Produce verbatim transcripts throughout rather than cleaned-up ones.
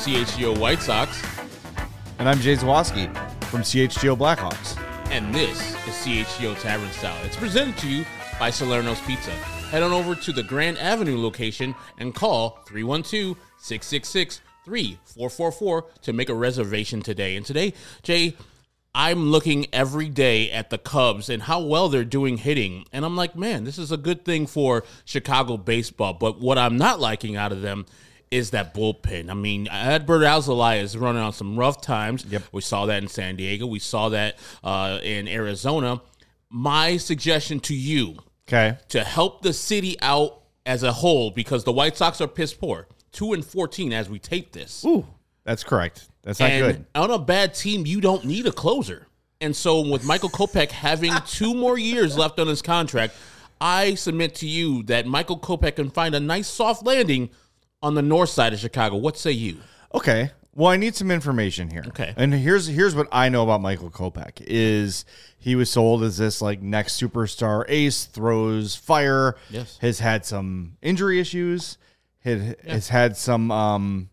C H G O White Sox. And I'm Jay Zawoski from C H G O Blackhawks. And this is C H G O Tavern Style. It's presented to you by Salerno's Pizza. Head on over to the Grand Avenue location and call three one two, six six six, three four four four to make a reservation today. And today, Jay, I'm looking every day at the Cubs and how well they're doing hitting. And I'm like, man, this is a good thing for Chicago baseball. But what I'm not liking out of them is that bullpen. I mean, Adbert Alzolay is running on some rough times. Yep. We saw that in San Diego. We saw that uh, in Arizona. My suggestion to you, okay, to help the city out as a whole, because the White Sox are piss poor, two and fourteen as we tape this. Ooh, that's correct. That's not and good. On a bad team, you don't need a closer. And so with Michael Kopech having two more years left on his contract, I submit to you that Michael Kopech can find a nice soft landing on the north side of Chicago. What say you? Okay. Well, I need some information here. Okay. And here's here's what I know about Michael Kopech is he was sold as this like next superstar ace, throws fire. Yes. Has had some injury issues. Had, yeah. Has had some um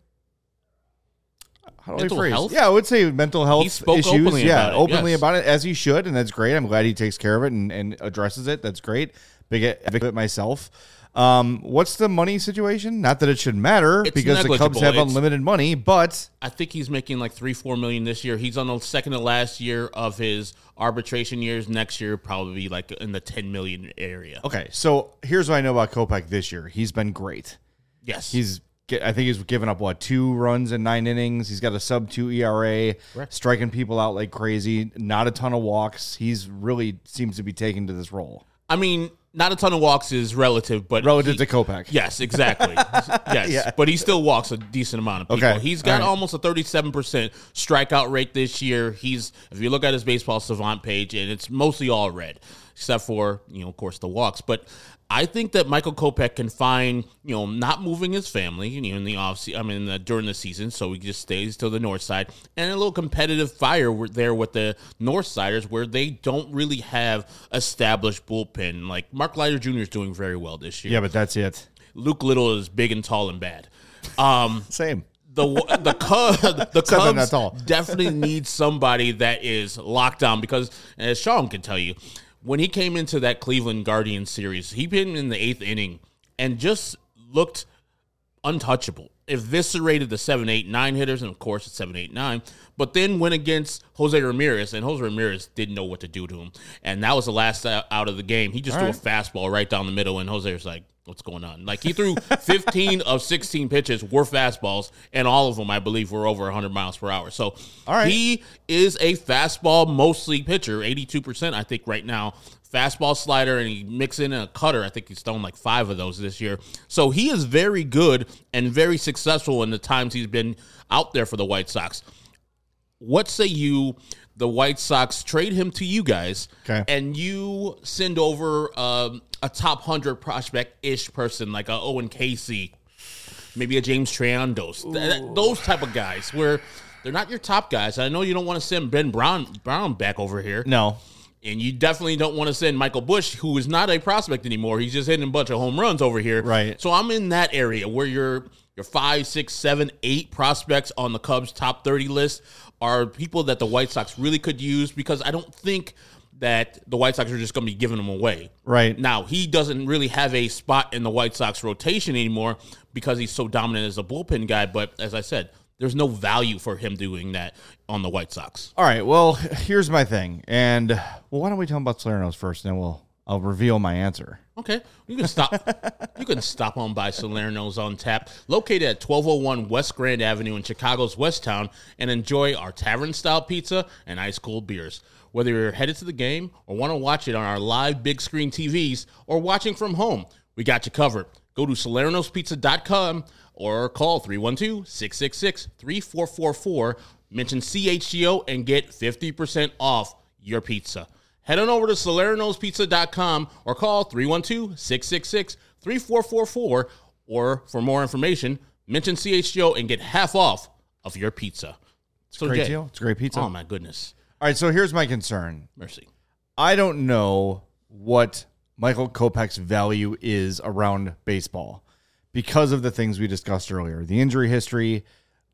how do mental I phrase? health? Yeah, I would say mental health he spoke issues. Openly yeah, about it. openly yes. about it as he should, and that's great. I'm glad he takes care of it and, and addresses it. That's great. Big advocate myself. Um, what's the money situation? Not that it should matter it's because the Cubs have it's, unlimited money, but I think he's making like three, four million this year. He's on the second to last year of his arbitration years. Next year, probably like in the ten million area. Okay, so here's what I know about Kopech this year. He's been great. Yes, he's. I think he's given up what two runs in nine innings. He's got a sub two E R A, Correct. Striking people out like crazy. Not a ton of walks. He's really seems to be taken to this role. I mean, not a ton of walks is relative, but relative he, to Kopech. Yes, exactly. yes, yeah. But he still walks a decent amount of people. Okay. He's got right. almost a thirty-seven percent strikeout rate this year. He's, if you look at his baseball savant page, and it's mostly all red, except for, you know, of course, the walks. But I think that Michael Kopech can find, you know, not moving his family, you know, in the off season, I mean, the, during the season, so he just stays to the north side, and a little competitive fire there with the north siders where they don't really have established bullpen. Like Mark Leiter Junior is doing very well this year. Yeah, but that's it. Luke Little is big and tall and bad. Um, Same. The the, Cub, the Cubs Cubs definitely need somebody that is locked down because, as Sean can tell you, when he came into that Cleveland Guardians series, he been in the eighth inning and just looked untouchable. Eviscerated the seven, eight, nine hitters, and of course it's seven, eight, nine. But then went against Jose Ramirez, and Jose Ramirez didn't know what to do to him. And that was the last out of the game. He just All threw right. a fastball right down the middle, and Jose was like, what's going on? Like, he threw fifteen of sixteen pitches were fastballs, and all of them, I believe, were over one hundred miles per hour. So all right. he is a fastball mostly pitcher, eighty-two percent, I think, right now. Fastball, slider, and he mixed in a cutter. I think he's thrown like five of those this year. So he is very good and very successful in the times he's been out there for the White Sox. What say you, the White Sox trade him to you guys, okay, and you send over um, a top one hundred prospect-ish person like a Owen Casey, maybe a James Triandos, th- those type of guys where they're not your top guys. I know you don't want to send Ben Brown, Brown back over here. No. And you definitely don't want to send Michael Busch, who is not a prospect anymore. He's just hitting a bunch of home runs over here. Right. So I'm in that area where your your five, six, seven, eight prospects on the Cubs top thirty list are people that the White Sox really could use because I don't think that the White Sox are just going to be giving them away. Right. Now, he doesn't really have a spot in the White Sox rotation anymore because he's so dominant as a bullpen guy. But as I said, there's no value for him doing that on the White Sox. All right, well, here's my thing. And, well, why don't we talk about Salerno's first, and then we'll I'll reveal my answer. Okay. You can stop You can stop on by Salerno's on tap, located at twelve oh one West Grand Avenue in Chicago's West Town, and enjoy our tavern-style pizza and ice-cold beers. Whether you're headed to the game or want to watch it on our live big-screen T Vs or watching from home, we got you covered. Go to salernos pizza dot com or call three one two, six six six, three four four four. Mention C H G O and get fifty percent off your pizza. Head on over to salernos pizza dot com or call three one two, six six six, three four four four. Or for more information, mention C H G O and get half off of your pizza. It's So a great Jay, deal. It's a great pizza. Oh, my goodness. All right, so here's my concern. Mercy. I don't know what Michael Kopech's value is around baseball because of the things we discussed earlier. The injury history,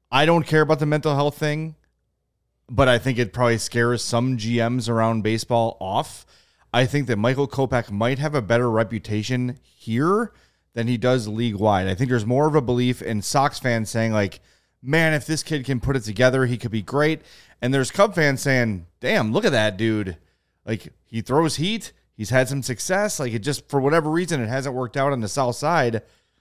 I don't care about the mental health thing, but I think it probably scares some G Ms around baseball off. I think that Michael Kopech might have a better reputation here than he does league-wide. I think there's more of a belief in Sox fans saying, like, man, if this kid can put it together, he could be great. And there's Cub fans saying, damn, look at that dude. Like, he throws heat. He's had some success. Like, it just, for whatever reason, it hasn't worked out on the south side.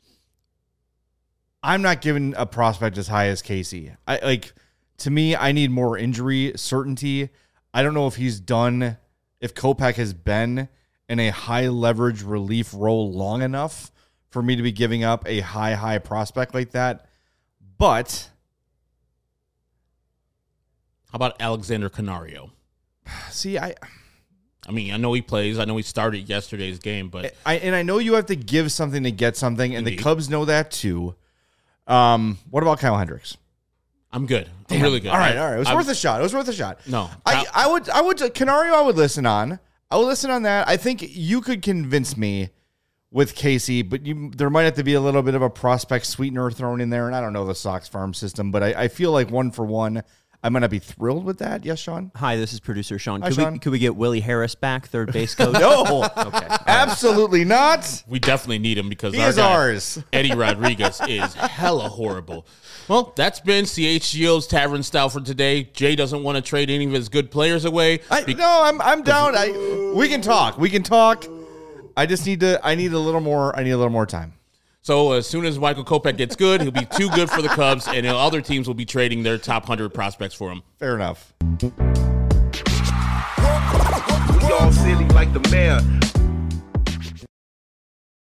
I'm not giving a prospect as high as Casey. I like, to me, I need more injury certainty. I don't know if he's done, if Kopech has been in a high leverage relief role long enough for me to be giving up a high, high prospect like that. But how about Alexander Canario? See, I... I mean, I know he plays. I know he started yesterday's game, but I and I know you have to give something to get something, and Indeed. the Cubs know that too. Um, what about Kyle Hendricks? I'm good. I'm Damn. really good. All right, I, all right. It was I'm, worth a shot. It was worth a shot. No, I, I would, I would, Canario, I would listen on. I would listen on that. I think you could convince me with Casey, but you, there might have to be a little bit of a prospect sweetener thrown in there. And I don't know the Sox farm system, but I, I feel like one for one, I'm going to be thrilled with that. Yes, Sean? Hi, this is producer Sean. Hi, could, Sean. We, could we get Willie Harris back, third base coach? No. Okay. Absolutely not. we definitely need him because He our is guy, ours. Eddie Rodriguez is hella horrible. Well, that's been C H G O's Tavern Style for today. Jay doesn't want to trade any of his good players away. I, no, I'm I'm down. I we can talk. We can talk. I just need to. I need a little more. I need a little more time. So as soon as Michael Kopech gets good, he'll be too good for the Cubs, and other teams will be trading their top one hundred prospects for him. Fair enough. We all silly like the mayor.